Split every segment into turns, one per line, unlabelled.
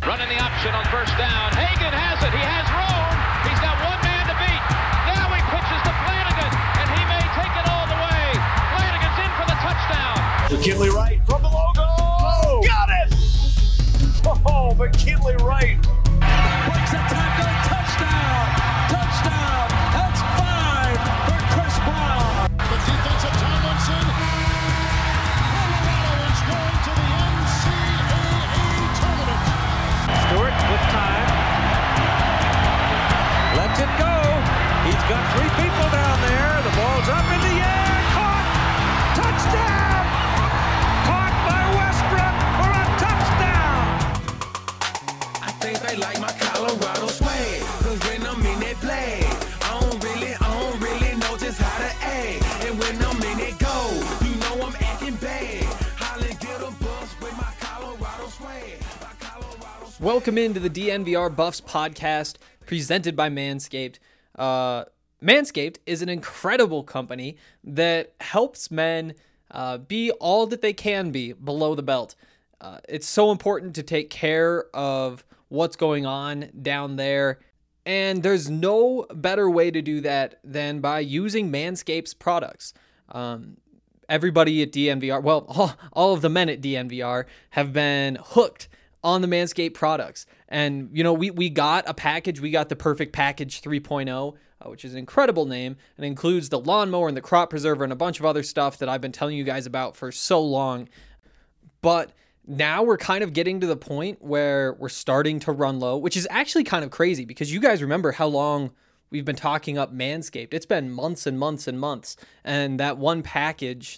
Running the option on first down. Hagan has it. He has room. He's got one man to beat. Now he pitches to Flanagan, and he may take it all the way. Flanagan's in for the touchdown.
McKinley Wright from the logo. Oh, got it! Oh, McKinley Wright.
Breaks a tackle. Touchdown. Touchdown. That's 5 for Chris Brown.
The defensive Tomlinson. Colorado is going to the NCAA tournament.
Stewart with time. Lets it go. He's got 3 people down there. The ball's up in the air. Caught. Touchdown. Caught by Westbrook for a touchdown.
I think they like my Colorado swag. Cause when I'm in that play, I don't really know just how to act. And when I'm in it go, you know I'm acting bad. Holly get a bus with my Colorado swag.
Welcome into the DNVR Buffs podcast presented by Manscaped. Manscaped is an incredible company that helps men be all that they can be below the belt. It's so important to take care of what's going on down there, and there's no better way to do that than by using Manscaped's products. Everybody at DNVR, well, all of the men at DNVR have been hooked on the Manscaped products. And, you know, we got a package. We got the Perfect Package 3.0, which is an incredible name. It includes the lawnmower and the crop preserver and a bunch of other stuff that I've been telling you guys about for so long. But now we're kind of getting to the point where we're starting to run low, which is actually kind of crazy because you guys remember how long we've been talking up Manscaped. It's been months and months and months. And that one package,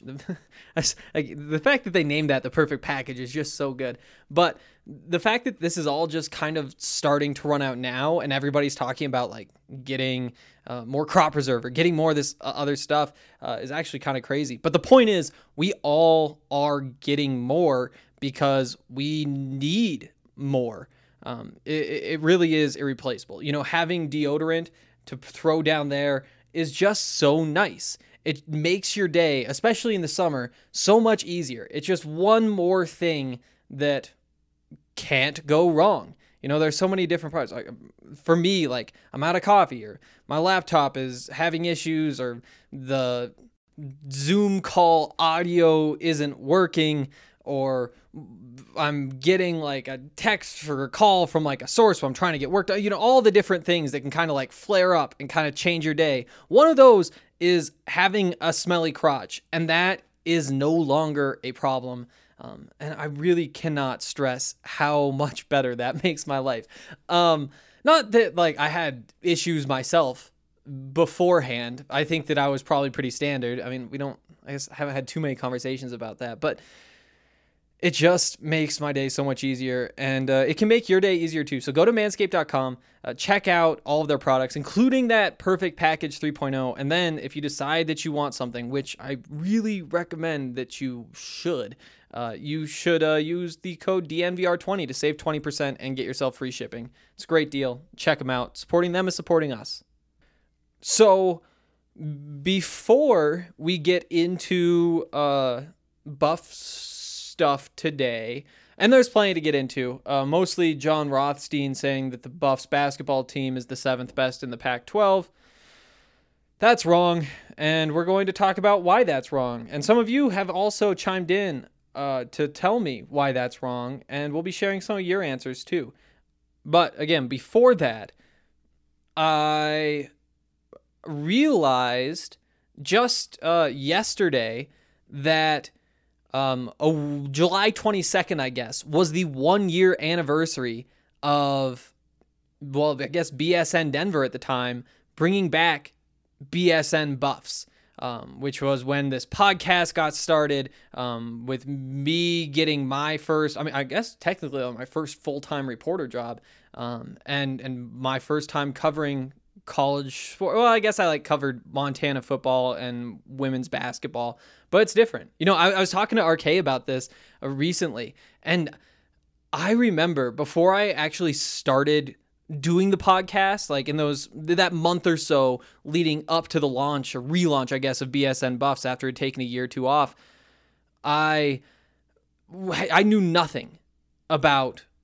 the fact that they named that the Perfect Package is just so good. But the fact that this is all just kind of starting to run out now and everybody's talking about like getting more crop preserver, getting more of this other stuff is actually kind of crazy. But the point is we all are getting more because we need more. It really is irreplaceable. You know, having deodorant to throw down there is just so nice. It makes your day, especially in the summer, so much easier. It's just one more thing that can't go wrong. You know, there's so many different parts. Like for me, like I'm out of coffee, or my laptop is having issues, or the Zoom call audio isn't working, or I'm getting like a text or a call from like a source where I'm trying to get work done. You know, all the different things that can kind of like flare up and kind of change your day. One of those is having a smelly crotch, and that is no longer a problem. And I really cannot stress how much better that makes my life. Not that like I had issues myself beforehand. I think that I was probably pretty standard. I mean, I guess I haven't had too many conversations about that, but it just makes my day so much easier, and it can make your day easier too. So go to manscaped.com, check out all of their products, including that Perfect Package 3.0. And then if you decide that you want something, which I really recommend that you should use the code DNVR20 to save 20% and get yourself free shipping. It's a great deal. Check them out. Supporting them is supporting us. So before we get into Buffs stuff today, and there's plenty to get into, mostly John Rothstein saying that the Buffs basketball team is the 7th best in the Pac-12. That's wrong, and we're going to talk about why that's wrong. And some of you have also chimed in to tell me why that's wrong, and we'll be sharing some of your answers too. But again, before that, I realized just yesterday that July 22nd, I guess, was the 1-year anniversary of, well, I guess BSN Denver at the time, bringing back BSN Buffs, which was when this podcast got started, with me getting my first, I guess technically my first full-time reporter job, and my first time covering college sport. Well, I guess I covered Montana football and women's basketball, but it's different. You know, I was talking to RK about this recently, and I remember before I actually started doing the podcast, like in that month or so leading up to the launch or relaunch, I guess, of BSN Buffs after it had taken a year or two off, I knew nothing about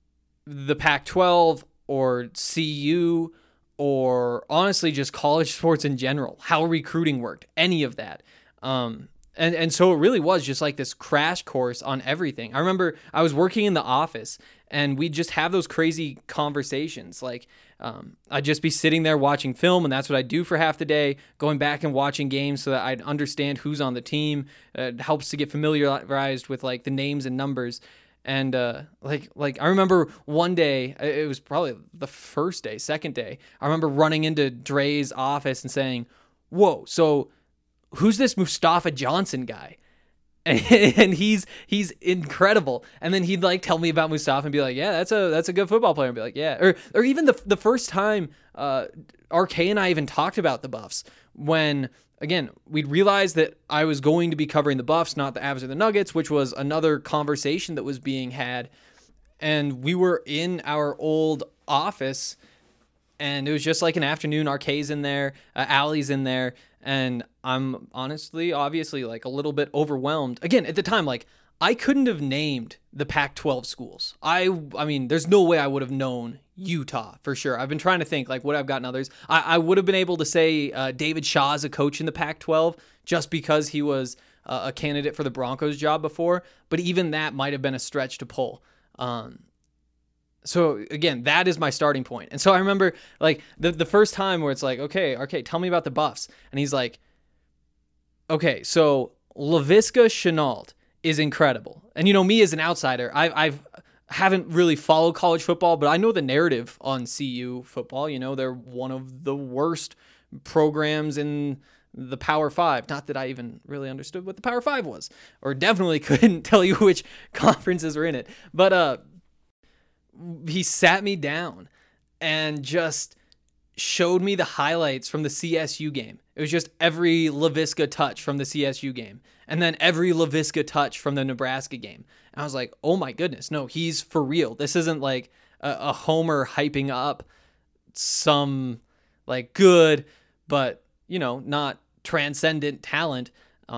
the Pac-12 or CU or honestly just college sports in general, how recruiting worked, any of that. And so it really was just like this crash course on everything. I remember I was working in the office and we'd just have those crazy conversations. Like I'd just be sitting there watching film, and that's what I'd do for half the day, going back and watching games so that I'd understand who's on the team. It helps to get familiarized with like the names and numbers. And like I remember one day, it was probably the second day, I remember running into Dre's office and saying, "Whoa, so who's this Mustafa Johnson guy?" And he's incredible. And then he'd like tell me about Mustafa and be like, "Yeah, that's a good football player." And be like, "Yeah." Or even the first time RK and I even talked about the Buffs, when again, we'd realized that I was going to be covering the Buffs, not the Avs or the Nuggets, which was another conversation that was being had. And we were in our old office, and it was just like an afternoon. RK's in there, Allie's in there, and I'm honestly, obviously, like a little bit overwhelmed. Again, at the time, like I couldn't have named the Pac-12 schools. I mean, there's no way I would have known Utah for sure. I've been trying to think, like, would I've gotten others? I would have been able to say David Shaw is a coach in the Pac-12 just because he was a candidate for the Broncos job before. But even that might have been a stretch to pull. So again, that is my starting point. And so I remember like the first time where it's like, okay, tell me about the Buffs. And he's like, okay, so Laviska Shenault is incredible. And you know, me as an outsider, I haven't really followed college football, but I know the narrative on CU football. You know, they're one of the worst programs in the Power Five. Not that I even really understood what the Power Five was, or definitely couldn't tell you which conferences were in it. But he sat me down and just showed me the highlights from the CSU game. It was just every Laviska touch from the CSU game, and then every Laviska touch from the Nebraska game. And I was like, oh my goodness, no, he's for real. This isn't like a homer hyping up some like good, but you know, not transcendent talent.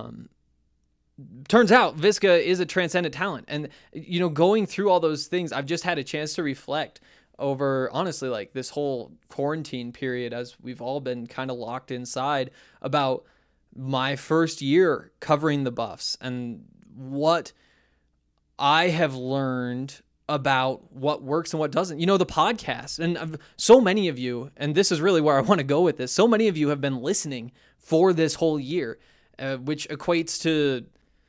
Turns out Viska is a transcendent talent. And, you know, going through all those things, I've just had a chance to reflect over, honestly, like this whole quarantine period, as we've all been kind of locked inside, about my first year covering the Buffs and what I have learned about what works and what doesn't. You know, the podcast, and so many of you, and this is really where I want to go with this, so many of you have been listening for this whole year, which equates to,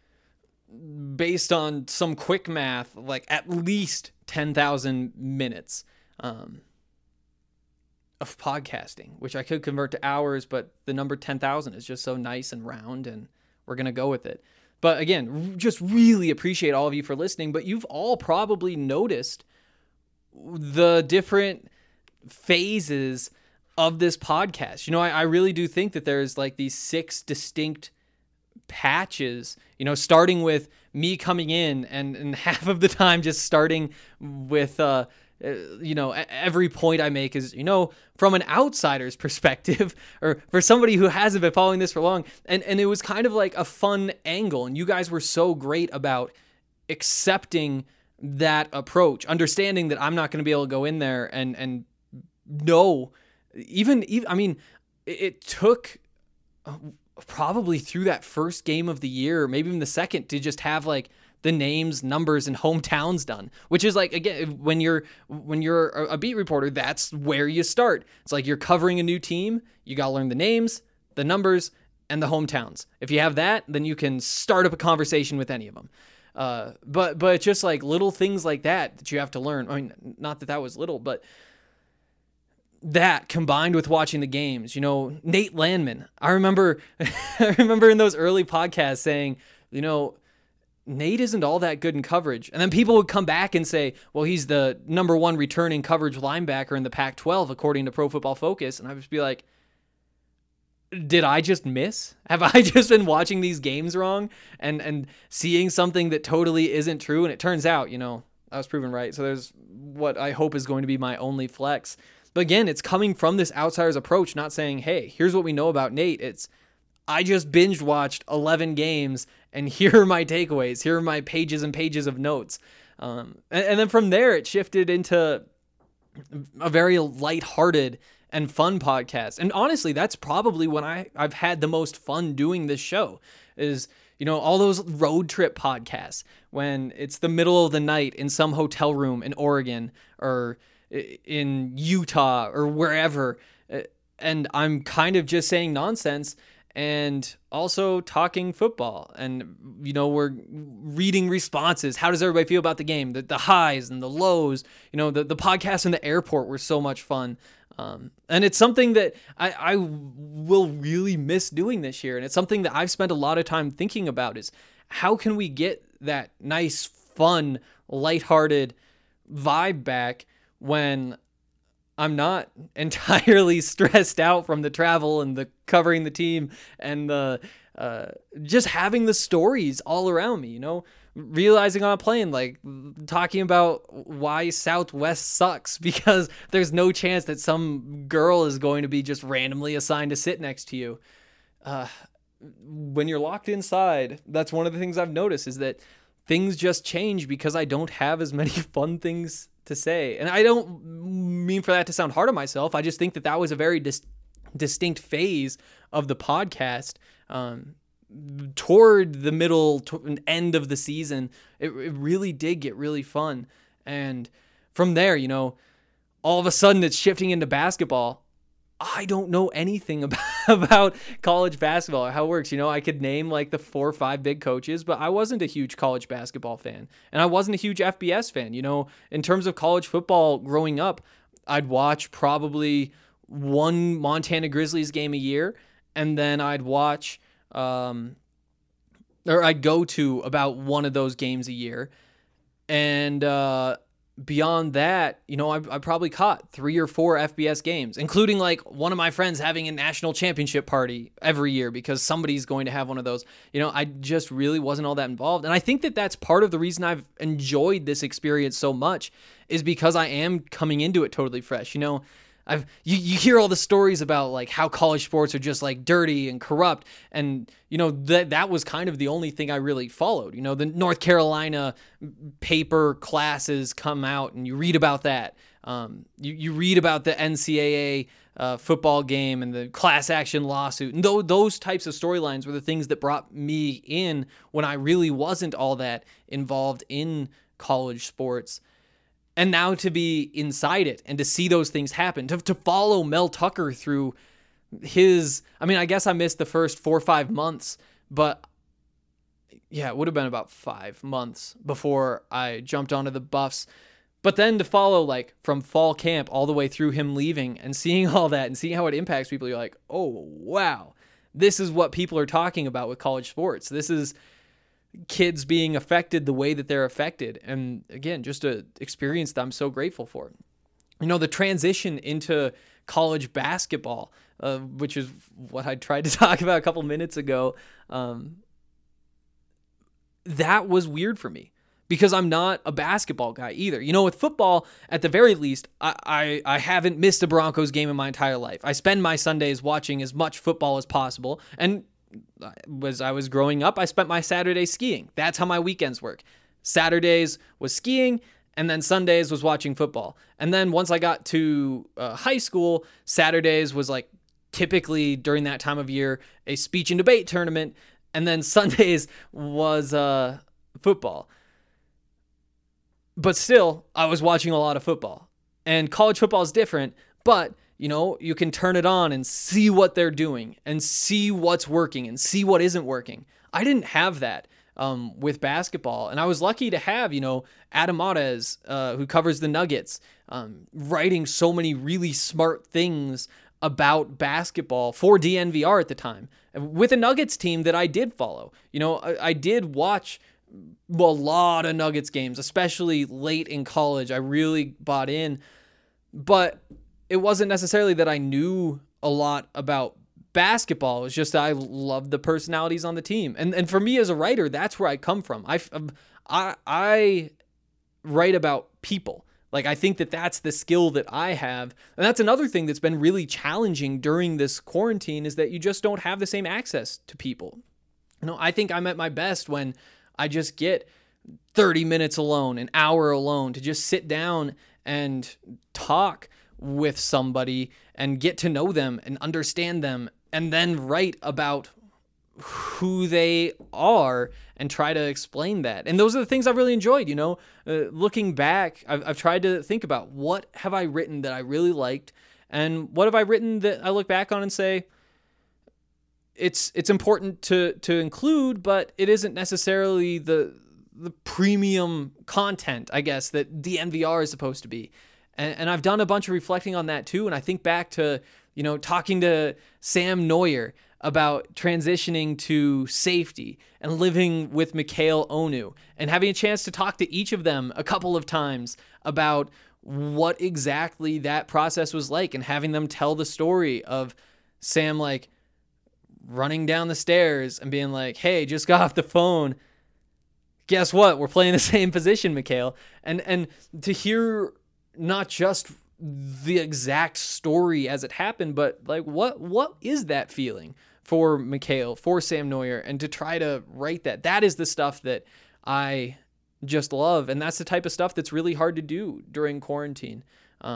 based on some quick math, like at least 10,000 minutes of podcasting, which I could convert to hours, but the number 10,000 is just so nice and round, and we're going to go with it. But again, just really appreciate all of you for listening, but you've all probably noticed the different phases of this podcast. You know, I really do think that there's like these 6 distinct patches, you know, starting with me coming in and half of the time just starting with, you know, every point I make is, you know, from an outsider's perspective, or for somebody who hasn't been following this for long. And it was kind of like a fun angle. And you guys were so great about accepting that approach, understanding that I'm not going to be able to go in there and know, even, I mean, it took probably through that first game of the year, maybe even the second, to just have like the names, numbers, and hometowns done, which is like, again, when you're a beat reporter, that's where you start. It's like you're covering a new team. You got to learn the names, the numbers, and the hometowns. If you have that, then you can start up a conversation with any of them. But it's just like little things like that you have to learn. I mean, not that was little, but that combined with watching the games, you know, Nate Landman, I remember in those early podcasts saying, you know, Nate isn't all that good in coverage. And then people would come back and say, well, he's the number 1 returning coverage linebacker in the Pac-12, according to Pro Football Focus. And I would just be like, did I just miss? Have I just been watching these games wrong and seeing something that totally isn't true? And it turns out, you know, I was proven right. So there's what I hope is going to be my only flex. But again, it's coming from this outsider's approach, not saying, hey, here's what we know about Nate. It's, I just binge watched 11 games and here are my takeaways. Here are my pages and pages of notes. And then from there, it shifted into a very lighthearted and fun podcast. And honestly, that's probably when I've had the most fun doing this show is, all those road trip podcasts when it's the middle of the night in some hotel room in Oregon or in Utah or wherever. And I'm kind of just saying nonsense and also talking football. And, we're reading responses. How does everybody feel about the game? The highs and the lows. The podcasts in the airport were so much fun. And it's something that I will really miss doing this year. And it's something that I've spent a lot of time thinking about is how can we get that nice, fun, lighthearted vibe back when I'm not entirely stressed out from the travel and the covering the team and the just having the stories all around me, realizing on a plane, like talking about why Southwest sucks because there's no chance that some girl is going to be just randomly assigned to sit next to you. When you're locked inside, that's one of the things I've noticed is that things just change because I don't have as many fun things to say. And I don't mean for that to sound hard on myself. I just think that was a very distinct phase of the podcast. Toward the middle and end of the season, it really did get really fun. And from there, all of a sudden it's shifting into basketball. I don't know anything about college basketball or how it works. I could name like the 4 or 5 big coaches, but I wasn't a huge college basketball fan. And I wasn't a huge FBS fan. In terms of college football growing up, I'd watch probably one Montana Grizzlies game a year. And then I'd watch, or I'd go to about one of those games a year. And beyond that, I probably caught 3 or 4 FBS games, including like one of my friends having a national championship party every year because somebody's going to have one of those. I just really wasn't all that involved. And I think that that's part of the reason I've enjoyed this experience so much is because I am coming into it totally fresh. You hear all the stories about like how college sports are just like dirty and corrupt. And, that was kind of the only thing I really followed. The North Carolina paper classes come out and you read about that. You read about the NCAA football game and the class action lawsuit. And those types of storylines were the things that brought me in when I really wasn't all that involved in college sports. And now to be inside it and to see those things happen, to follow Mel Tucker through I guess I missed the first 4 or 5 months, but yeah, it would have been about 5 months before I jumped onto the Buffs. But then to follow like from fall camp all the way through him leaving and seeing all that and seeing how it impacts people, you're like, oh, wow, this is what people are talking about with college sports. This is kids being affected the way that they're affected. And again, just an experience that I'm so grateful for. The transition into college basketball, which is what I tried to talk about a couple minutes ago, that was weird for me because I'm not a basketball guy either. With football, at the very least, I haven't missed a Broncos game in my entire life. I spend my Sundays watching as much football as possible. And as I was growing up, I spent my Saturdays skiing. That's how my weekends work. Saturdays was skiing, and then Sundays was watching football. And then once I got to high school, Saturdays was like typically during that time of year a speech and debate tournament, and then Sundays was football. But still, I was watching a lot of football. And college football is different, but you can turn it on and see what they're doing and see what's working and see what isn't working. I didn't have that with basketball. And I was lucky to have, Adam Mares, who covers the Nuggets, writing so many really smart things about basketball for DNVR at the time with a Nuggets team that I did follow. I did watch a lot of Nuggets games, especially late in college. I really bought in, but it wasn't necessarily that I knew a lot about basketball. It was just that I loved the personalities on the team. And for me as a writer, that's where I come from. I write about people. Like, I think that that's the skill that I have. And that's another thing that's been really challenging during this quarantine is that you just don't have the same access to people. I think I'm at my best when I just get 30 minutes alone, an hour alone, to just sit down and talk with somebody and get to know them and understand them, and then write about who they are and try to explain that. And those are the things I've really enjoyed, looking back. I've tried to think about, what have I written that I really liked, and what have I written that I look back on and say, it's important to include, but it isn't necessarily the premium content, I guess, that DNVR is supposed to be. And I've done a bunch of reflecting on that too. And I think back to, talking to Sam Neuer about transitioning to safety and living with Mikhail Onu, and having a chance to talk to each of them a couple of times about what exactly that process was like, and having them tell the story of Sam, like, running down the stairs and being like, hey, just got off the phone. Guess what? We're playing the same position, Mikhail. And to hear not just the exact story as it happened, but like, what is that feeling for Mikhail, for Sam Neuer, and to try to write that is the stuff that I just love. And that's the type of stuff that's really hard to do during quarantine.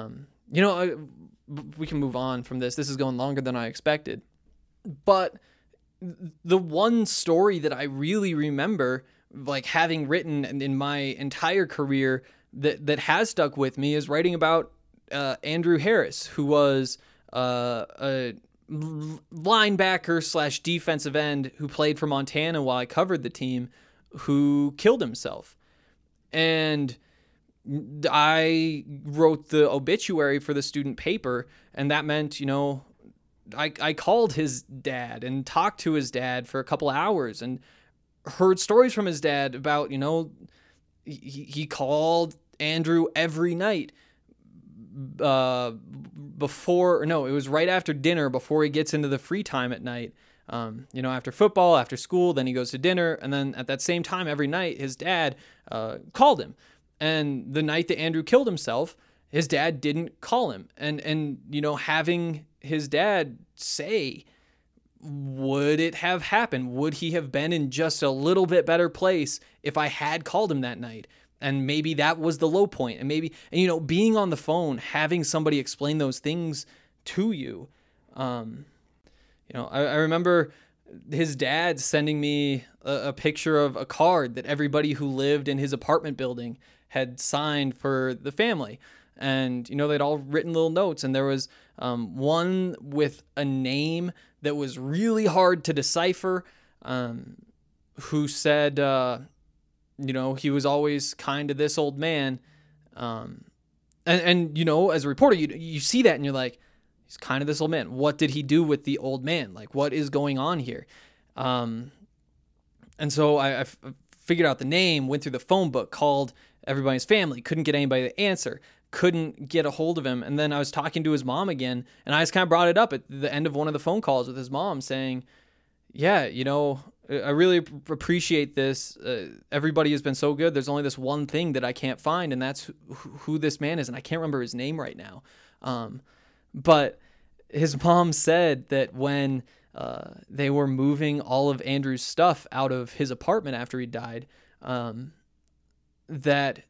We can move on from this. This is going longer than I expected. But the one story that I really remember, like, having written in my entire career that has stuck with me, is writing about Andrew Harris, who was a linebacker / defensive end who played for Montana while I covered the team, who killed himself. And I wrote the obituary for the student paper, and that meant, I called his dad and talked to his dad for a couple hours and heard stories from his dad about, he called Andrew every night it was right after dinner, before he gets into the free time at night, after football, after school, then he goes to dinner. And then at that same time every night, his dad called him. And the night that Andrew killed himself, his dad didn't call him. And having his dad say, would it have happened? Would he have been in just a little bit better place if I had called him that night? And maybe that was the low point. And being on the phone, having somebody explain those things to you. I remember his dad sending me a picture of a card that everybody who lived in his apartment building had signed for the family. And, they'd all written little notes, and there was one with a name that was really hard to decipher, who said, he was always kind to this old man. And as a reporter, you see that and you're like, he's kind of this old man. What did he do with the old man? Like, what is going on here? And so I figured out the name, went through the phone book, called everybody's family, couldn't get anybody to answer, couldn't get a hold of him. And then I was talking to his mom again, and I just kind of brought it up at the end of one of the phone calls with his mom, saying, yeah, I really appreciate this. Everybody has been so good. There's only this one thing that I can't find, and that's who this man is. And I can't remember his name right now. But his mom said that when they were moving all of Andrew's stuff out of his apartment after he died, that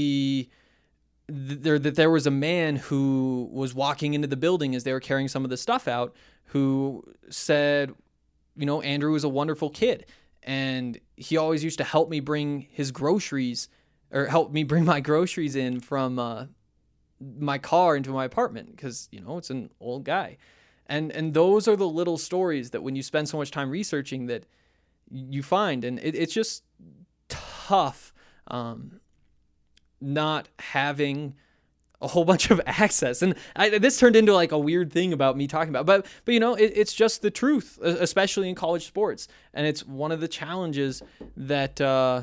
there was a man who was walking into the building as they were carrying some of the stuff out, who said, Andrew was a wonderful kid, and he always used to help me bring his groceries, or help me bring my groceries in from my car into my apartment, because, it's an old guy. And those are the little stories that when you spend so much time researching that you find, and it's just tough not having a whole bunch of access. And this turned into like a weird thing about me talking about, but it's just the truth, especially in college sports. And it's one of the challenges that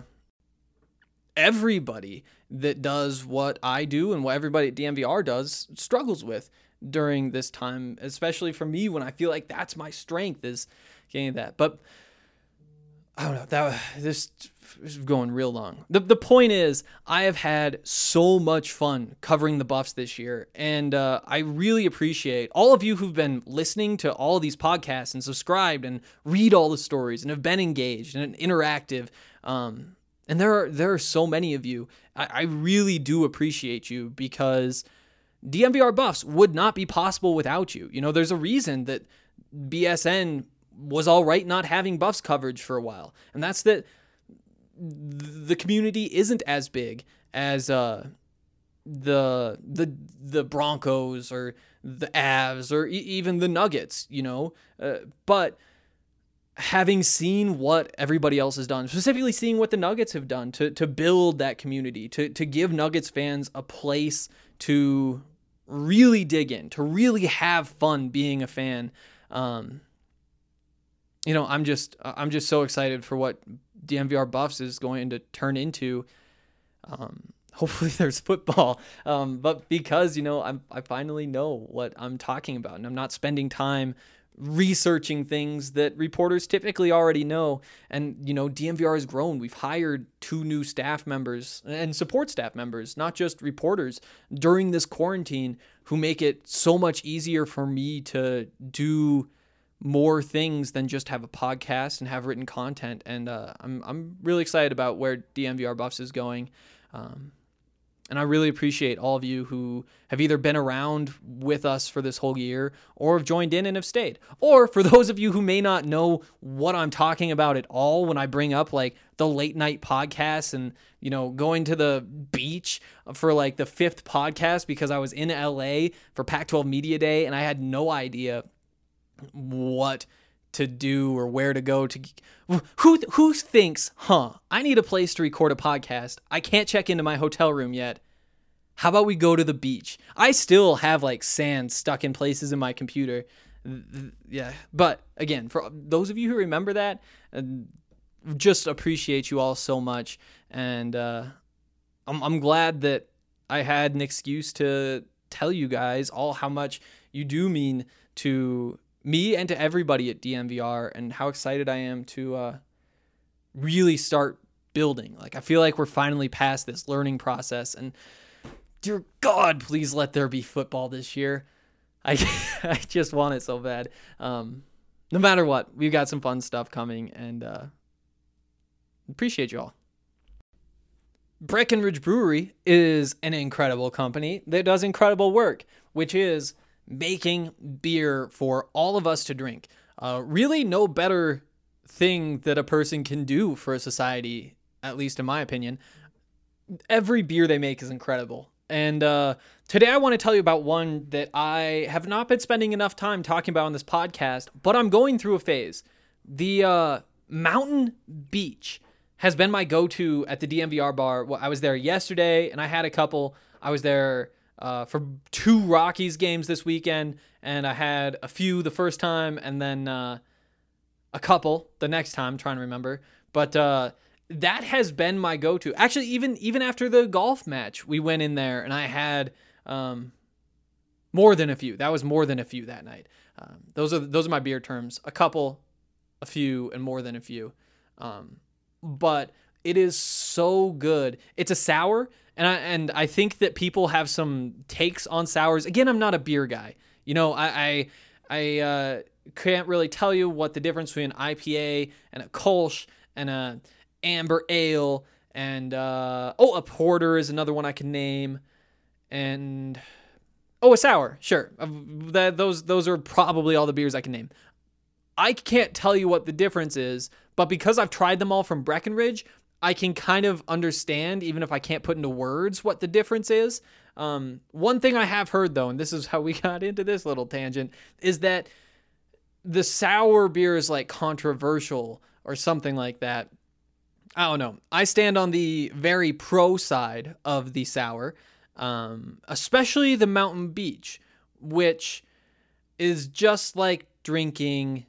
everybody that does what I do and what everybody at DNVR does struggles with during this time, especially for me, when I feel like that's my strength, is getting that. But I don't know, this is going real long. The point is, I have had so much fun covering the Buffs this year, and I really appreciate all of you who've been listening to all these podcasts and subscribed and read all the stories and have been engaged and interactive. And there are so many of you. I really do appreciate you, because DNVR Buffs would not be possible without you. You know, there's a reason that BSN was all right not having Buffs coverage for a while. And that's that the community isn't as big as the Broncos or the Avs or even the Nuggets, you know. But having seen what everybody else has done, specifically seeing what the Nuggets have done to build that community, to give Nuggets fans a place to really dig in, to really have fun being a fan. You know, I'm just so excited for what DNVR Buffs is going to turn into. Hopefully there's football, but because, you know, I finally know what I'm talking about, and I'm not spending time researching things that reporters typically already know. And, you know, DNVR has grown. We've hired 2 new staff members and support staff members, not just reporters, during this quarantine, who make it so much easier for me to do more things than just have a podcast and have written content. And I'm really excited about where DNVR Buffs is going. And I really appreciate all of you who have either been around with us for this whole year or have joined in and have stayed. Or for those of you who may not know what I'm talking about at all when I bring up like the late night podcasts and, you know, going to the beach for like the 5th podcast because I was in LA for Pac-12 Media Day and I had no idea what to do or where to go to. Who thinks, I need a place to record a podcast. I can't check into my hotel room yet. How about we go to the beach? I still have like sand stuck in places in my computer. Yeah. But again, for those of you who remember that, just appreciate you all so much. And I'm glad that I had an excuse to tell you guys all how much you do mean to me and to everybody at DNVR, and how excited I am to really start building. Like, I feel like we're finally past this learning process, and dear God, please let there be football this year. I just want it so bad. No matter what, we've got some fun stuff coming, and appreciate you all. Breckenridge Brewery is an incredible company that does incredible work, which is making beer for all of us to drink. Really no better thing that a person can do for a society, at least in my opinion. Every beer they make is incredible. And today I want to tell you about one that I have not been spending enough time talking about on this podcast, but I'm going through a phase. The Mountain Beach has been my go-to at the DNVR bar. Well, I was there yesterday, and I had a couple. I was there for 2 Rockies games this weekend, and I had a few the first time, and then a couple the next time, I'm trying to remember. But that has been my go-to. Actually, even after the golf match, we went in there, and I had more than a few. That was more than a few that night. Those are my beer terms. A couple, a few, and more than a few. But it is so good. It's a sour, and I think that people have some takes on sours. Again, I'm not a beer guy. You know, I can't really tell you what the difference between an IPA and a Kolsch and a amber ale and a porter is another one I can name, and a sour. Sure, those are probably all the beers I can name. I can't tell you what the difference is, but because I've tried them all from Breckenridge, I can kind of understand, even if I can't put into words, what the difference is. One thing I have heard, though, and this is how we got into this little tangent, is that the sour beer is like controversial or something like that. I don't know. I stand on the very pro side of the sour, especially the Mountain Beach, which is just like drinking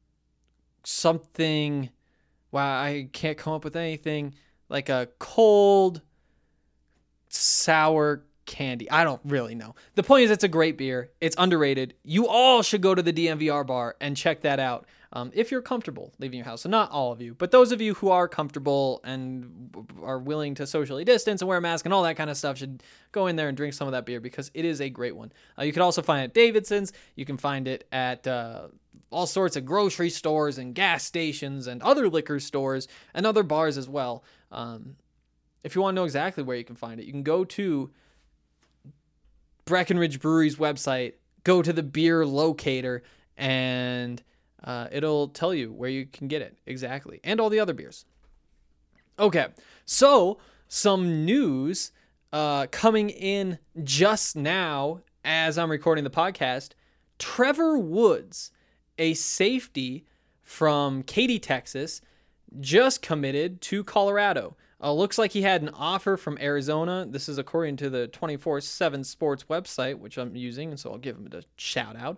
something. Wow, I can't come up with anything like a cold, sour candy. I don't really know. The point is, it's a great beer. It's underrated. You all should go to the DNVR bar and check that out if you're comfortable leaving your house. So not all of you, but those of you who are comfortable and are willing to socially distance and wear a mask and all that kind of stuff should go in there and drink some of that beer because it is a great one. You can also find it at Davidson's. You can find it at all sorts of grocery stores and gas stations and other liquor stores and other bars as well. If you want to know exactly where you can find it, you can go to Breckenridge Brewery's website, go to the beer locator, and it'll tell you where you can get it exactly, and all the other beers. Okay, so some news coming in just now as I'm recording the podcast. Trevor Woods, a safety from Katy, Texas, just committed to Colorado. Looks like he had an offer from Arizona. This is according to the 24/7 Sports website, which I'm using, and so I'll give him a shout out.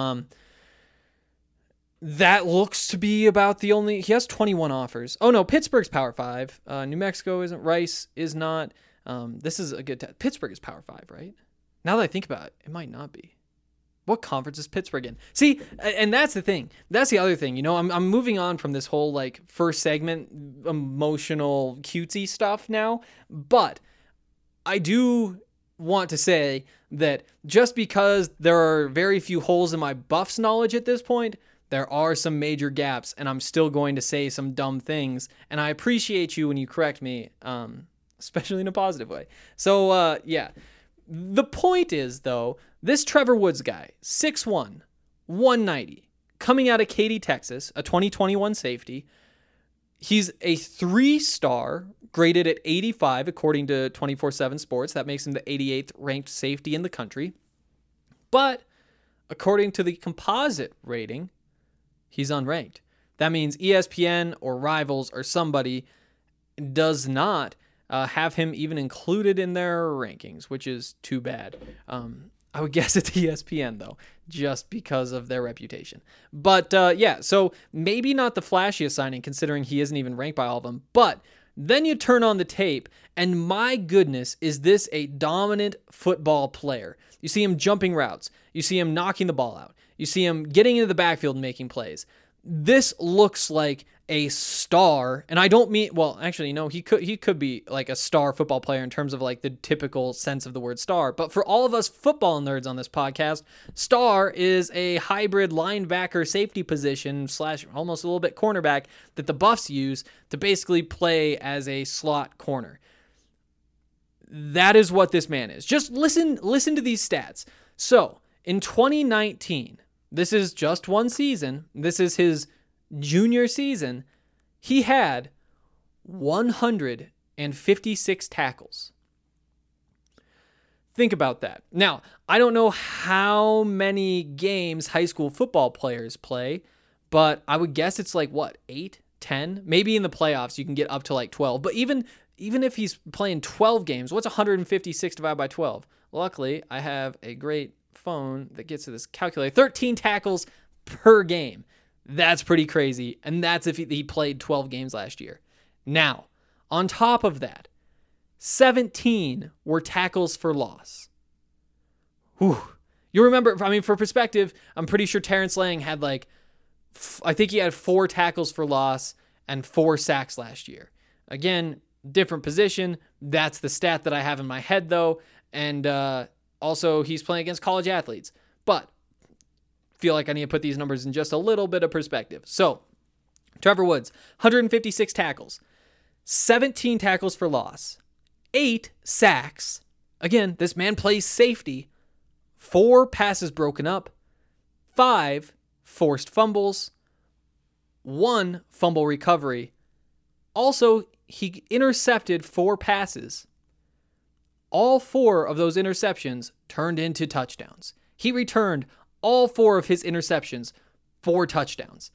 That looks to be about the only... He has 21 offers. Oh, no, Pittsburgh's Power 5. New Mexico isn't. Rice is not. This is a good... Pittsburgh is Power 5, right? Now that I think about it, it might not be. What conference is Pittsburgh in? See, and that's the thing. That's the other thing. You know, I'm moving on from this whole, like, first segment emotional cutesy stuff now. But I do want to say that just because there are very few holes in my Buffs knowledge at this point, there are some major gaps, and I'm still going to say some dumb things. And I appreciate you when you correct me, especially in a positive way. So, yeah. The point is, though, this Trevor Woods guy, 6'1", 190, coming out of Katy, Texas, a 2021 safety. He's a 3-star, graded at 85, according to 24/7 Sports. That makes him the 88th ranked safety in the country. But according to the composite rating, he's unranked. That means ESPN or Rivals or somebody does not have him even included in their rankings, which is too bad. I would guess it's ESPN, though, just because of their reputation. But, yeah, so maybe not the flashiest signing, considering he isn't even ranked by all of them. But then you turn on the tape, and my goodness, is this a dominant football player. You see him jumping routes. You see him knocking the ball out. You see him getting into the backfield and making plays. This looks like a star, and I don't mean, well, actually, no, he could be like a star football player in terms of like the typical sense of the word star. But for all of us football nerds on this podcast, star is a hybrid linebacker safety position / almost a little bit cornerback that the Buffs use to basically play as a slot corner. That is what this man is. Just listen to these stats. So in 2019, this is just one season. This is his junior season. He had 156 tackles. Think about that. Now, I don't know how many games high school football players play, but I would guess it's like, 8, 10? Maybe in the playoffs you can get up to like 12. But even if he's playing 12 games, what's 156 divided by 12? Luckily, I have a great phone that gets to this calculator. 13 tackles per game. That's pretty crazy. And that's if he played 12 games last year. Now, on top of that, 17 were tackles for loss. Whew. You remember, I mean, for perspective, I'm pretty sure Terrence Lang had I think he had 4 tackles for loss and 4 sacks last year. Again, different position. That's the stat that I have in my head, though. And also, he's playing against college athletes. But feel like I need to put these numbers in just a little bit of perspective. So, Trevor Woods, 156 tackles, 17 tackles for loss, 8 sacks. Again, this man plays safety. 4 passes broken up, 5 forced fumbles, 1 fumble recovery. Also, he intercepted 4 passes. All 4 of those interceptions turned into touchdowns. He returned all 4 of his interceptions for touchdowns.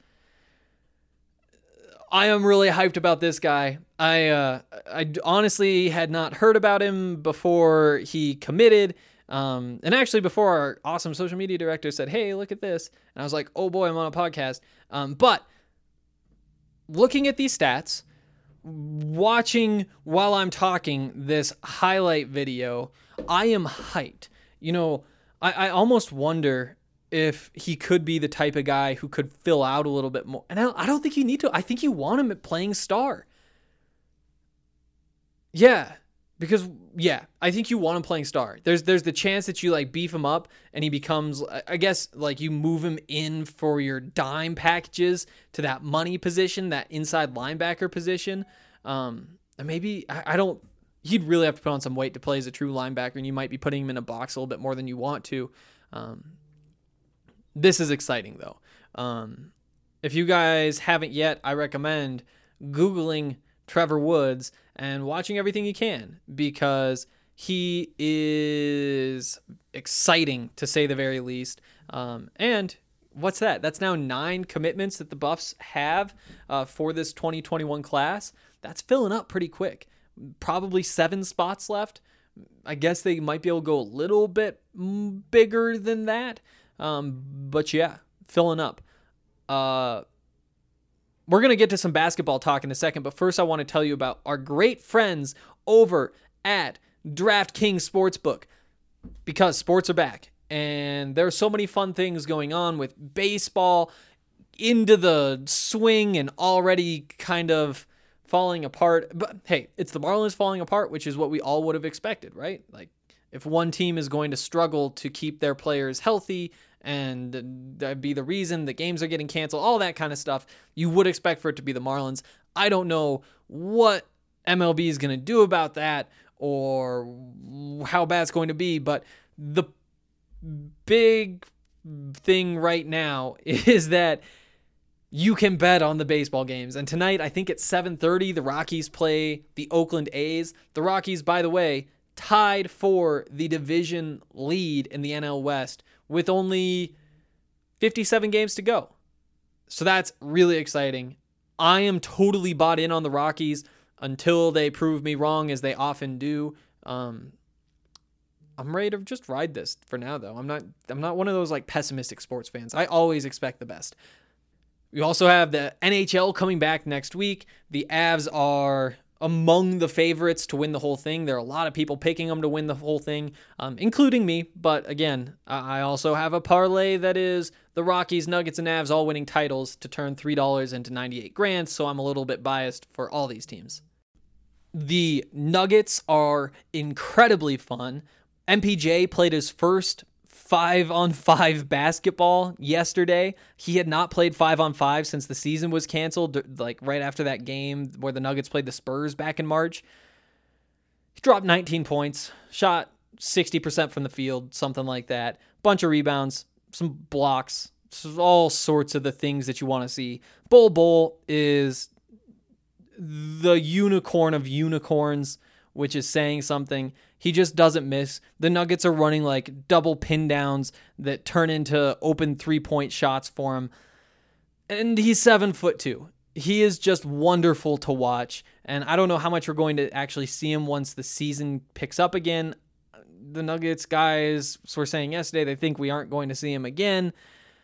I am really hyped about this guy. I honestly had not heard about him before he committed. And actually before our awesome social media director said, hey, look at this. And I was like, oh boy, I'm on a podcast. But looking at these stats, watching while I'm talking this highlight video, I am hyped. I almost wonder if he could be the type of guy who could fill out a little bit more. And I don't think you need to. I think you want him at playing star. Yeah. Because, I think you want him playing star. There's the chance that you like beef him up and he becomes, I guess, like you move him in for your dime packages to that money position, that inside linebacker position. And maybe, he'd really have to put on some weight to play as a true linebacker, and you might be putting him in a box a little bit more than you want to. This is exciting, though. If you guys haven't yet, I recommend Googling Trevor Woods and watching everything you can, because he is exciting, to say the very least. And what's that? That's now 9 commitments that the Buffs have for this 2021 class. That's filling up pretty quick. Probably 7 spots left. I guess they might be able to go a little bit bigger than that. But yeah, filling up. We're going to get to some basketball talk in a second, but first I want to tell you about our great friends over at DraftKings Sportsbook, because sports are back and there are so many fun things going on with baseball into the swing and already kind of falling apart. But hey, it's the Marlins falling apart, which is what we all would have expected, right? Like, if one team is going to struggle to keep their players healthy and that'd be the reason the games are getting canceled, all that kind of stuff, you would expect for it to be the Marlins. I don't know what MLB is going to do about that or how bad it's going to be, but the big thing right now is that you can bet on the baseball games. And tonight, I think at 7:30, the Rockies play the Oakland A's. The Rockies, by the way, tied for the division lead in the NL West with only 57 games to go. So that's really exciting. I am totally bought in on the Rockies until they prove me wrong, as they often do. I'm ready to just ride this for now, though. I'm not one of those like pessimistic sports fans. I always expect the best. We also have the NHL coming back next week. The Avs are among the favorites to win the whole thing. There are a lot of people picking them to win the whole thing, including me. But again, I also have a parlay that is the Rockies, Nuggets, and Avs all winning titles to turn $3 into $98,000. So I'm a little bit biased for all these teams. The Nuggets are incredibly fun. MPJ played his first 5-on-5 basketball yesterday. He had not played 5-on-5 since the season was canceled, like right after that game where the Nuggets played the Spurs back in March. He dropped 19 points, shot 60% from the field, something like that. Bunch of rebounds, some blocks, all sorts of the things that you want to see. Bol is the unicorn of unicorns, which is saying something. He just doesn't miss. The Nuggets are running like double pin downs that turn into open 3-point shots for him. And he's 7'2". He is just wonderful to watch. And I don't know how much we're going to actually see him once the season picks up again. The Nuggets guys were saying yesterday they think we aren't going to see him again,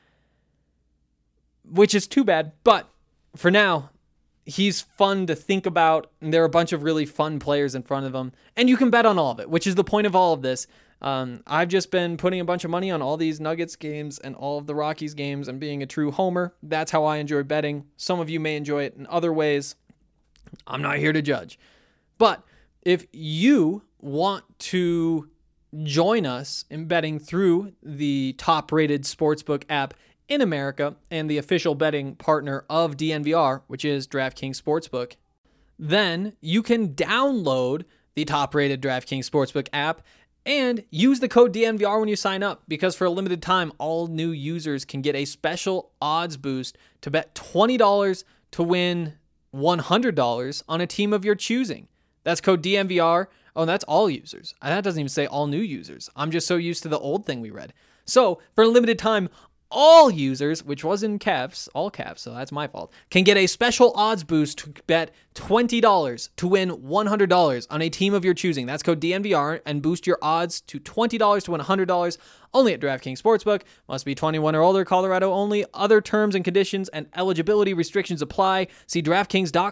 which is too bad. But for now, he's fun to think about, and there are a bunch of really fun players in front of him, and you can bet on all of it, which is the point of all of this. I've just been putting a bunch of money on all these Nuggets games and all of the Rockies games and being a true homer. That's how I enjoy betting. Some of you may enjoy it in other ways. I'm not here to judge. But if you want to join us in betting through the top-rated sportsbook app in America and the official betting partner of DNVR, which is DraftKings Sportsbook, then you can download the top-rated DraftKings Sportsbook app and use the code DNVR when you sign up, because for a limited time, all new users can get a special odds boost to bet $20 to win $100 on a team of your choosing. That's code DNVR. Oh, that's all users. That doesn't even say all new users. I'm just so used to the old thing we read. So for a limited time, all users, which was in caps, all caps, so that's my fault, can get a special odds boost to bet $20 to win $100 on a team of your choosing. That's code DNVR, and boost your odds to $20 to win $100 only at DraftKings Sportsbook. Must be 21 or older, Colorado only. Other terms and conditions and eligibility restrictions apply. See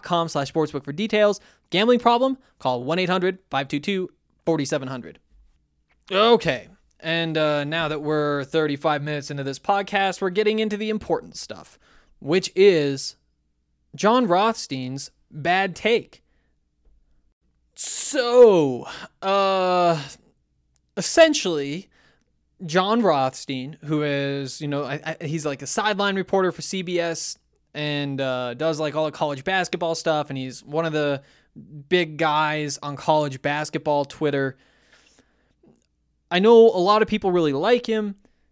DraftKings.com/sportsbook for details. Gambling problem? Call 1-800-522-4700. Okay. And now that we're 35 minutes into this podcast, we're getting into the important stuff, which is Jon Rothstein's bad take. So, essentially, Jon Rothstein, who is, he's like a sideline reporter for CBS and does like all the college basketball stuff, and he's one of the big guys on college basketball Twitter. I know a lot of people really like him.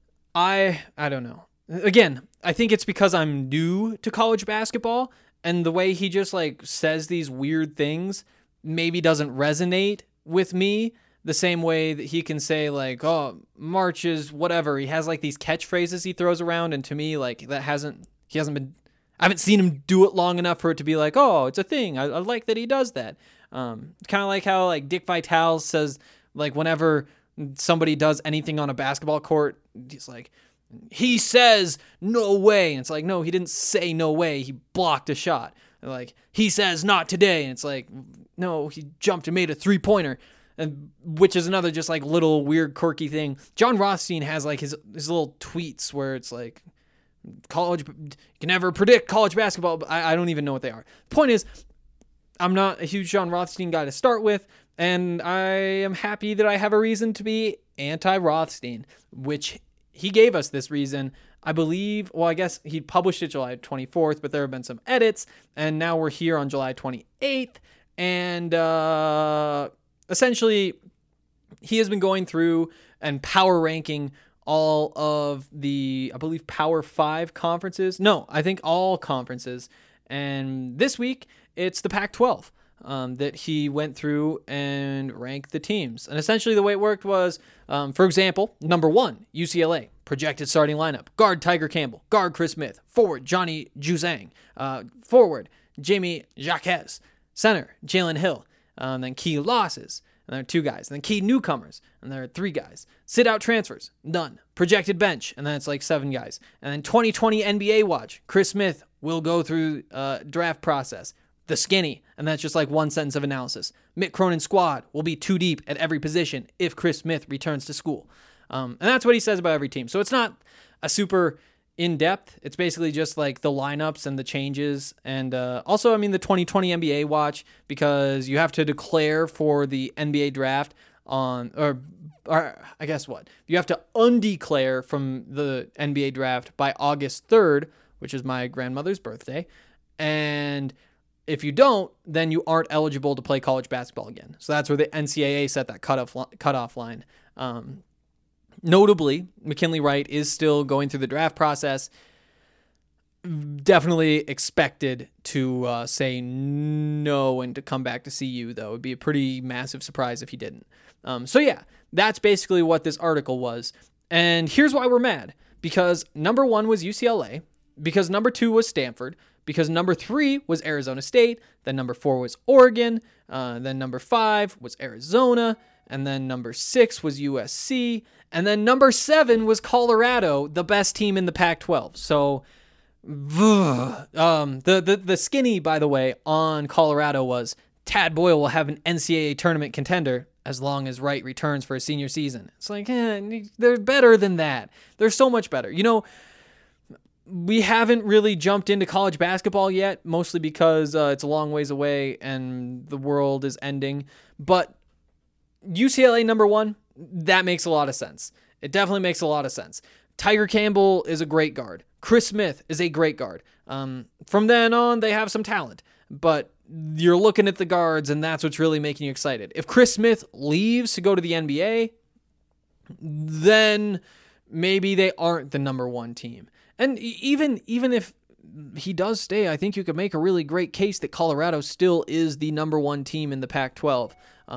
I don't know. Again, I think it's because I'm new to college basketball, and the way he just like says these weird things maybe doesn't resonate with me the same way that he can say like, oh, March is whatever. He has like these catchphrases he throws around, and to me, like I haven't seen him do it long enough for it to be like, oh, it's a thing. I like that he does that. Kind of like how like Dick Vitale says like whenever somebody does anything on a basketball court, he's like, he says no way, and it's like, no, he didn't say no way, he blocked a shot. And like, he says not today, and it's like, no, he jumped and made a 3-pointer, and which is another just like little weird quirky thing. Jon Rothstein has like his little tweets where it's like, you can never predict college basketball, but I don't even know what they are. The point is, I'm not a huge Jon Rothstein guy to start with, and I am happy that I have a reason to be anti-Rothstein, which he gave us this reason. I believe, well, I guess he published it July 24th, but there have been some edits, and now we're here on July 28th, and essentially, he has been going through and power ranking all of the, I believe, Power 5 conferences. No, I think all conferences, and this week, it's the Pac-12. That he went through and ranked the teams. And essentially the way it worked was, for example, number 1, UCLA, projected starting lineup. Guard Tiger Campbell. Guard Chris Smith. Forward Johnny Juzang. Forward Jamie Jaquez. Center Jalen Hill. Then key losses. And there are 2 guys. And then key newcomers. And there are 3 guys. Sit out transfers. None. Projected bench. And then it's like 7 guys. And then 2020 NBA watch. Chris Smith will go through draft process. The skinny, and that's just like one sentence of analysis. Mick Cronin's squad will be 2 deep at every position if Chris Smith returns to school. And that's what he says about every team. So it's not a super in-depth. It's basically just like the lineups and the changes. And also, I mean, the 2020 NBA watch, because you have to declare for the NBA draft on, or I guess what? You have to undeclare from the NBA draft by August 3rd, which is my grandmother's birthday. And if you don't, then you aren't eligible to play college basketball again. So that's where the NCAA set that cutoff line. Notably, McKinley Wright is still going through the draft process. Definitely expected to say no and to come back to CU, though. It would be a pretty massive surprise if he didn't. So yeah, that's basically what this article was. And here's why we're mad. Because number 1 was UCLA. Because number 2 was Stanford. Because number 3 was Arizona State, then number 4 was Oregon, then number 5 was Arizona, and then number 6 was USC, and then number 7 was Colorado, the best team in the Pac-12. So, the skinny, by the way, on Colorado was Tad Boyle will have an NCAA tournament contender as long as Wright returns for a senior season. It's like, they're better than that. They're so much better. We haven't really jumped into college basketball yet, mostly because it's a long ways away and the world is ending. But UCLA number 1, that makes a lot of sense. It definitely makes a lot of sense. Tiger Campbell is a great guard. Chris Smith is a great guard. From then on, they have some talent. But you're looking at the guards, and that's what's really making you excited. If Chris Smith leaves to go to the NBA, then maybe they aren't the number 1 team. And even if he does stay, I think you could make a really great case that Colorado still is the number 1 team in the Pac-12.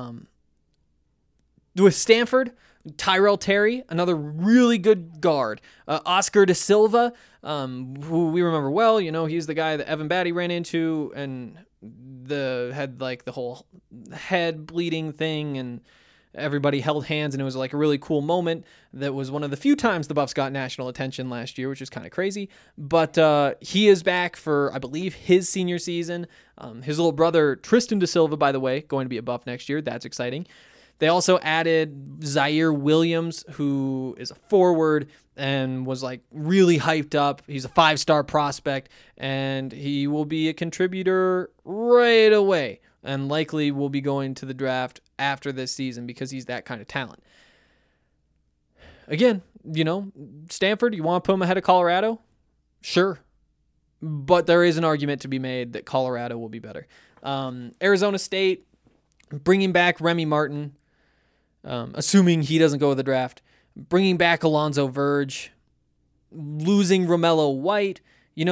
With Stanford, Tyrell Terry, another really good guard. Oscar Da Silva, who we remember well. He's the guy that Evan Batty ran into and had like the whole head bleeding thing, and everybody held hands, and it was like a really cool moment. That was one of the few times the Buffs got national attention last year, which is kind of crazy. But he is back for, I believe, his senior season. His little brother, Tristan Da Silva, by the way, going to be a Buff next year. That's exciting. They also added Zaire Williams, who is a forward and was like really hyped up. He's a 5-star prospect, and he will be a contributor right away and likely will be going to the draft after this season because he's that kind of talent. Again, Stanford, you want to put him ahead of Colorado? Sure. But there is an argument to be made that Colorado will be better. Arizona State, bringing back Remy Martin, assuming he doesn't go to the draft, bringing back Alonzo Verge, losing Romello White.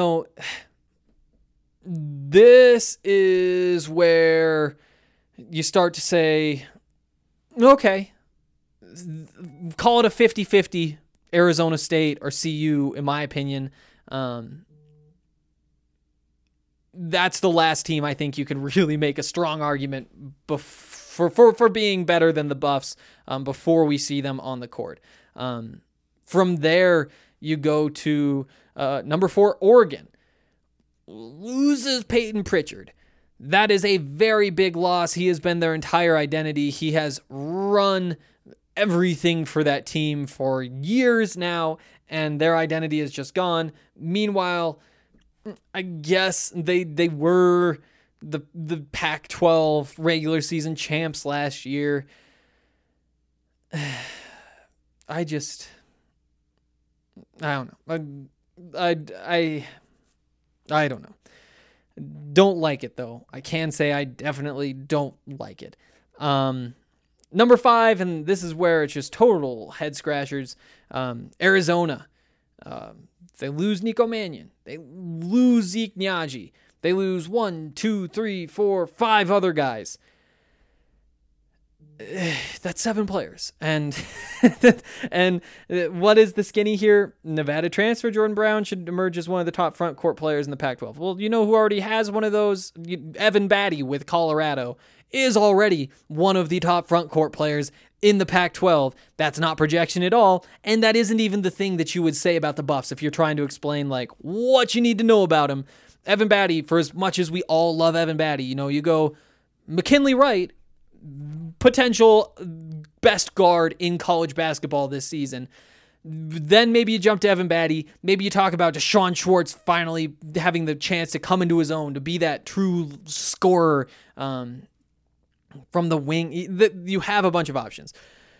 This is where you start to say, okay, call it a 50-50 Arizona State or CU, in my opinion. That's the last team I think you can really make a strong argument for being better than the Buffs before we see them on the court. From there, you go to number 4, Oregon. Loses Peyton Pritchard. That is a very big loss. He has been their entire identity. He has run everything for that team for years now, and their identity is just gone. Meanwhile, I guess they were the Pac-12 regular season champs last year. I don't know. I don't know. Don't like it, though. I can say I definitely don't like it. Number 5, and this is where it's just total head scratchers. Arizona. They lose Nico Mannion. They lose Zeke Nnaji. They lose 1, 2, 3, 4, 5 other guys. That's 7 players. And what is the skinny here? Nevada transfer Jordan Brown should emerge as one of the top front court players in the Pac-12. Well, you know who already has one of those? Evan Batty with Colorado is already one of the top front court players in the Pac-12. That's not projection at all, and that isn't even the thing that you would say about the Buffs if you're trying to explain like what you need to know about him. Evan Batty, for as much as we all love Evan Batty, you go McKinley Wright, potential best guard in college basketball this season. Then maybe you jump to Evan Batty. Maybe you talk about Deshaun Schwartz finally having the chance to come into his own, to be that true scorer from the wing. You have a bunch of options.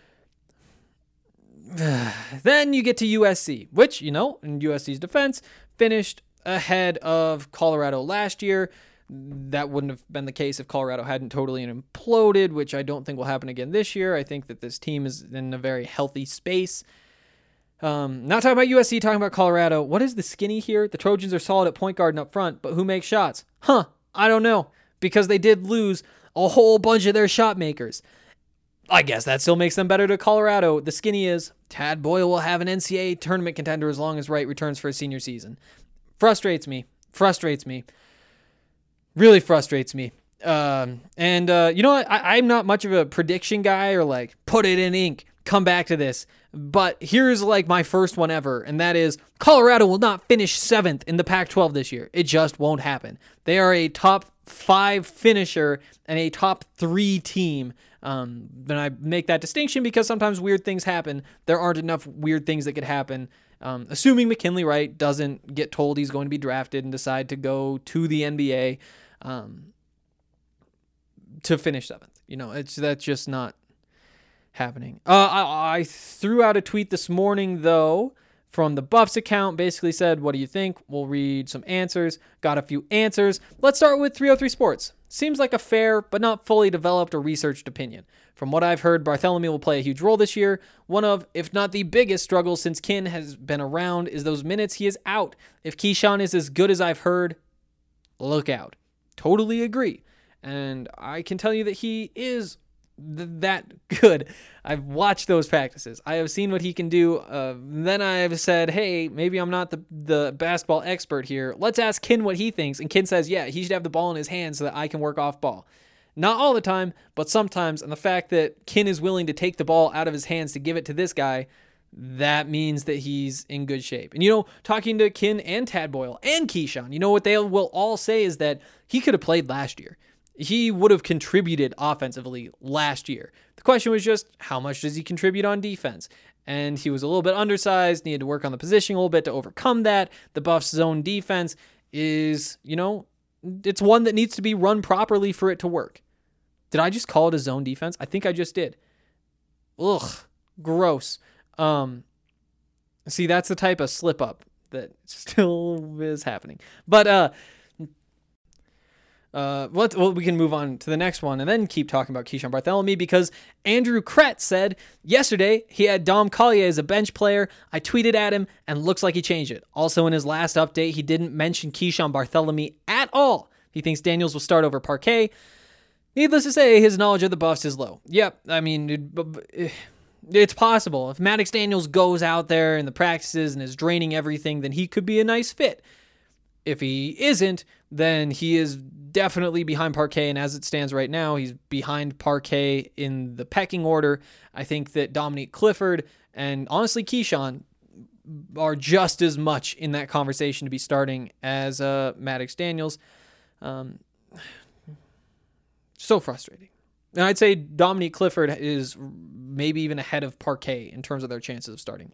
Then you get to USC, which, in USC's defense, finished ahead of Colorado last year. That wouldn't have been the case if Colorado hadn't totally imploded, which I don't think will happen again this year. I think that this team is in a very healthy space. Not talking about USC, talking about Colorado. What is the skinny here? The Trojans are solid at point guard and up front, but who makes shots? I don't know, because they did lose a whole bunch of their shot makers. I guess that still makes them better to Colorado. The skinny is Tad Boyle will have an NCAA tournament contender as long as Wright returns for his senior season. Frustrates me. Really frustrates me. You know what? I'm not much of a prediction guy or like put it in ink, come back to this. But here's like my first one ever, and that is Colorado will not finish 7th in the Pac-12 this year. It just won't happen. They are a top 5 finisher and a top 3 team. Then I make that distinction because sometimes weird things happen. There aren't enough weird things that could happen. Assuming McKinley Wright doesn't get told he's going to be drafted and decide to go to the NBA to finish 7th. That's just not happening. I threw out a tweet this morning, though, from the Buffs account. Basically said, what do you think? We'll read some answers. Got a few answers. Let's start with 303 Sports. Seems like a fair but not fully developed or researched opinion. From what I've heard, Bartholomew will play a huge role this year. One of, if not the biggest struggles since Kin has been around is those minutes he is out. If Keyshawn is as good as I've heard, look out. Totally agree. And I can tell you that he is that good. I've watched those practices. I have seen what he can do. Then I've said, hey, maybe I'm not the basketball expert here. Let's ask Kin what he thinks. And Kin says, yeah, he should have the ball in his hands so that I can work off ball. Not all the time, but sometimes. And the fact that Kin is willing to take the ball out of his hands to give it to this guy, that means that he's in good shape. And, talking to Kin and Tad Boyle and Keyshawn, what they will all say is that he could have played last year. he would have contributed offensively last year. The question was just, how much does he contribute on defense? And he was a little bit undersized, needed to work on the positioning a little bit to overcome that. The Buffs' zone defense is, it's one that needs to be run properly for it to work. Did I just call it a zone defense? I think I just did. Ugh, gross. See, that's the type of slip up that still is happening. But we can move on to the next one and then keep talking about Keeshawn Bartholomew, because Andrew Krett said yesterday he had Dom Collier as a bench player. I tweeted at him and looks like he changed it. Also, in his last update, he didn't mention Keeshawn Bartholomew at all. He thinks Daniels will start over Parquet. Needless to say, his knowledge of the Buffs is low. Yep, I mean, it's possible. If Maddox Daniels goes out there in the practices and is draining everything, then he could be a nice fit. If he isn't, then he is definitely behind Parquet, and as it stands right now, he's behind Parquet in the pecking order. I think that Dominique Clifford and honestly Keeshawn are just as much in that conversation to be starting as Maddox Daniels. So frustrating. And I'd say Dominique Clifford is maybe even ahead of Parquet in terms of their chances of starting.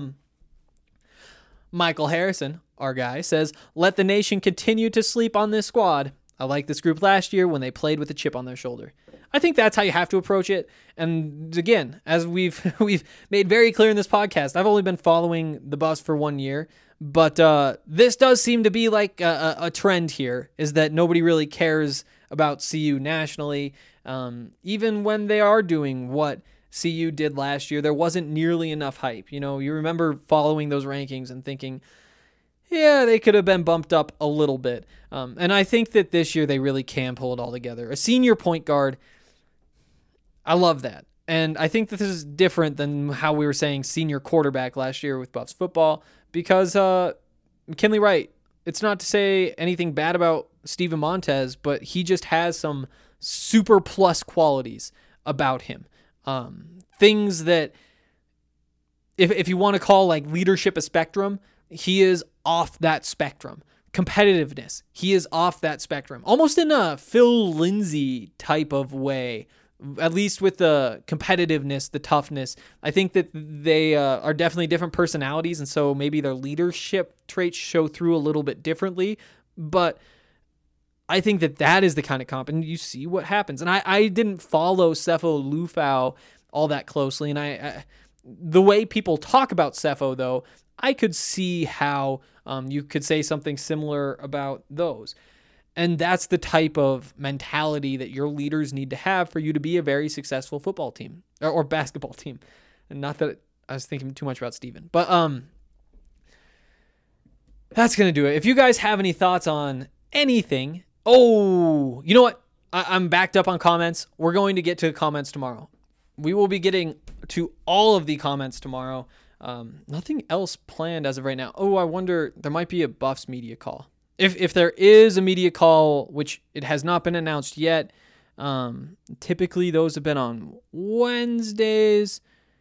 Michael Harrison, our guy, says, let the nation continue to sleep on this squad. I like this group last year when they played with a chip on their shoulder. I think that's how you have to approach it. And again, as we've made very clear in this podcast, I've only been following the Buffs for 1 year, but this does seem to be like a trend here, is that nobody really cares about CU nationally. Even when they are doing what CU did last year, there wasn't nearly enough hype. You remember following those rankings and thinking, yeah, they could have been bumped up a little bit. And I think that this year they really can pull it all together. A senior point guard, I love that. And I think that this is different than how we were saying senior quarterback last year with Buffs football, because McKinley Wright, it's not to say anything bad about Steven Montez, but he just has some super plus qualities about him. Things that, if you want to call like leadership a spectrum, he is off that spectrum. Competitiveness, he is off that spectrum. Almost in a Phil Lindsay type of way, at least with the competitiveness, the toughness. I think that they are definitely different personalities, and so maybe their leadership traits show through a little bit differently. But I think that is the kind of comp, and you see what happens. And I didn't follow Sefo Lufau all that closely, and I the way people talk about Sefo, though, I could see how you could say something similar about those. And that's the type of mentality that your leaders need to have for you to be a very successful football team or basketball team. And not that I was thinking too much about Steven, but that's going to do it. If you guys have any thoughts on anything, you know what? I'm backed up on comments. We're going to get to the comments tomorrow. We will be getting to all of the comments tomorrow. Nothing else planned as of right now. I wonder, there might be a Buffs media call. If there is a media call, which it has not been announced yet, typically those have been on Wednesdays.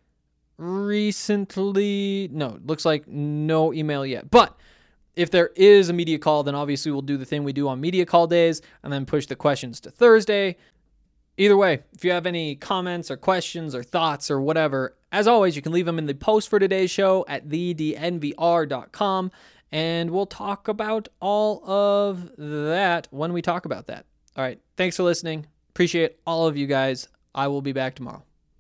Recently, no, it looks like no email yet. But if there is a media call, then obviously we'll do the thing we do on media call days and then push the questions to Thursday. Either way, if you have any comments or questions or thoughts or whatever, as always, you can leave them in the post for today's show at thednvr.com, and we'll talk about all of that when we talk about that. All right, thanks for listening. Appreciate all of you guys. I will be back tomorrow.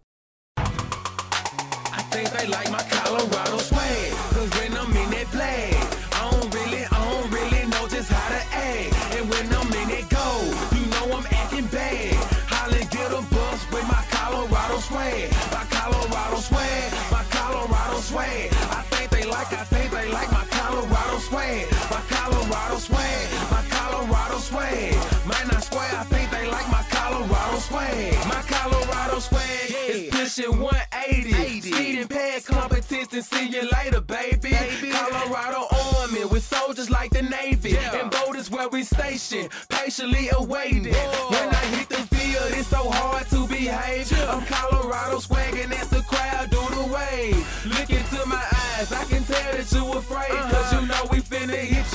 I think they like my Colorado swag, 'cause when I'm in that flag, I don't really know just how to act. And when I'm in that goal, you know I'm acting bad. Hollin' get a bus with my Colorado swag. My Colorado swag, my Colorado swag. I think they like my Colorado swag. My Colorado swag, my Colorado swag. Might not swear, I think they like my Colorado swag. My Colorado swag is pushing 180. Speeding past competition, see you later, baby. Colorado Army with soldiers like the Navy. And boat is where we station, patiently awaiting. When I hit the field, it's so hard to behave. I'm Colorado swagging as the crowd do the wave. Look into my eyes, I can tell that you afraid, 'cause you know we feel finna hit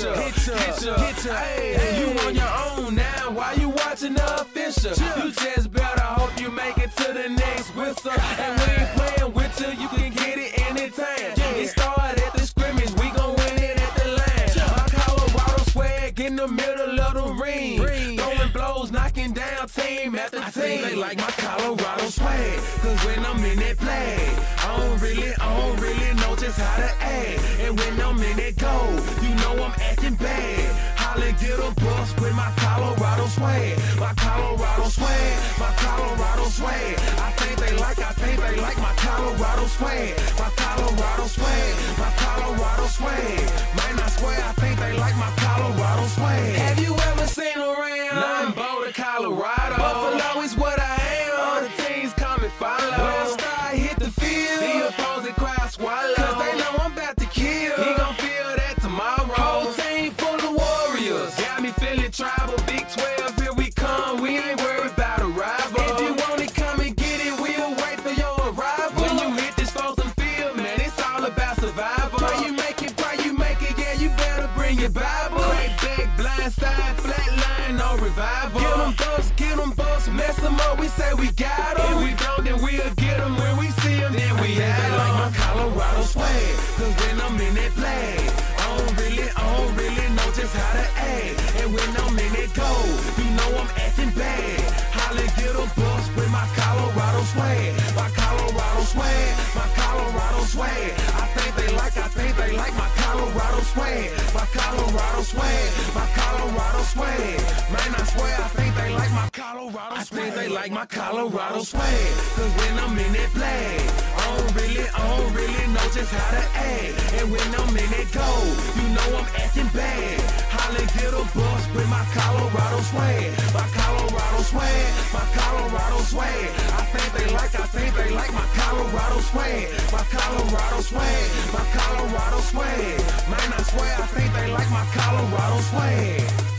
ya. Hey, you on your own now. Why you watching the official? You just better hope you make it to the next whistle. And we ain't playing with you. You can get it anytime. It started at the scrimmage. We gon' win it at the line. My Colorado swag in the middle of the ring. Throwing blows, knocking down team after team. They like my Colorado swag. Cause when I'm in that play, I don't really know just how to act. And when I'm in that goal, you know I'm acting bad. Holla, get a bus with my Colorado swag. My Colorado swag, my Colorado swag. I think they like my Colorado swag. My Colorado swag, my Colorado swag. Man, I swear I think they like my Colorado swag. Have you ever seen around? I'm Boulder, Colorado. Buffalo is what I am. All the teams come and follow. When I start hit the field, the opposing crowd swallow. Cause they know I'm about to kill. He gon' feel that tomorrow. Whole team full of warriors. Got me feeling tribal. Big 12, here we come. We ain't worried about a rival. If you want it, come and get it. We'll wait for your arrival. When you hit this frozen field, man, it's all about survival. Pray you make it, yeah, you better bring your Bible. Crack back, blind side, flat line, no revival. Get them busts, mess them up, we say we got them. If we don't, then we'll get them. When we see them, then we have them. Like my Colorado swag, cause when I'm in that flag, I don't really know just how to act. And when I'm in that goal, you know I'm acting bad. Holla, get a bus with my Colorado swag. My Colorado swag, my Colorado swag. I think they like my Colorado swag. My Colorado swag, my Colorado swag. Man, I swear I think they like my Colorado swag. I think they like my Colorado swag. Cause when I'm in that flag, I don't really know just how to act. And when I'm in that goal, you know I'm acting bad. Holla, get a bus with my Colorado swag. My Colorado swag, my Colorado swag. I think they like my Colorado swag. My Colorado swag, my Colorado swag. Man, I swear I think they like my Colorado swag.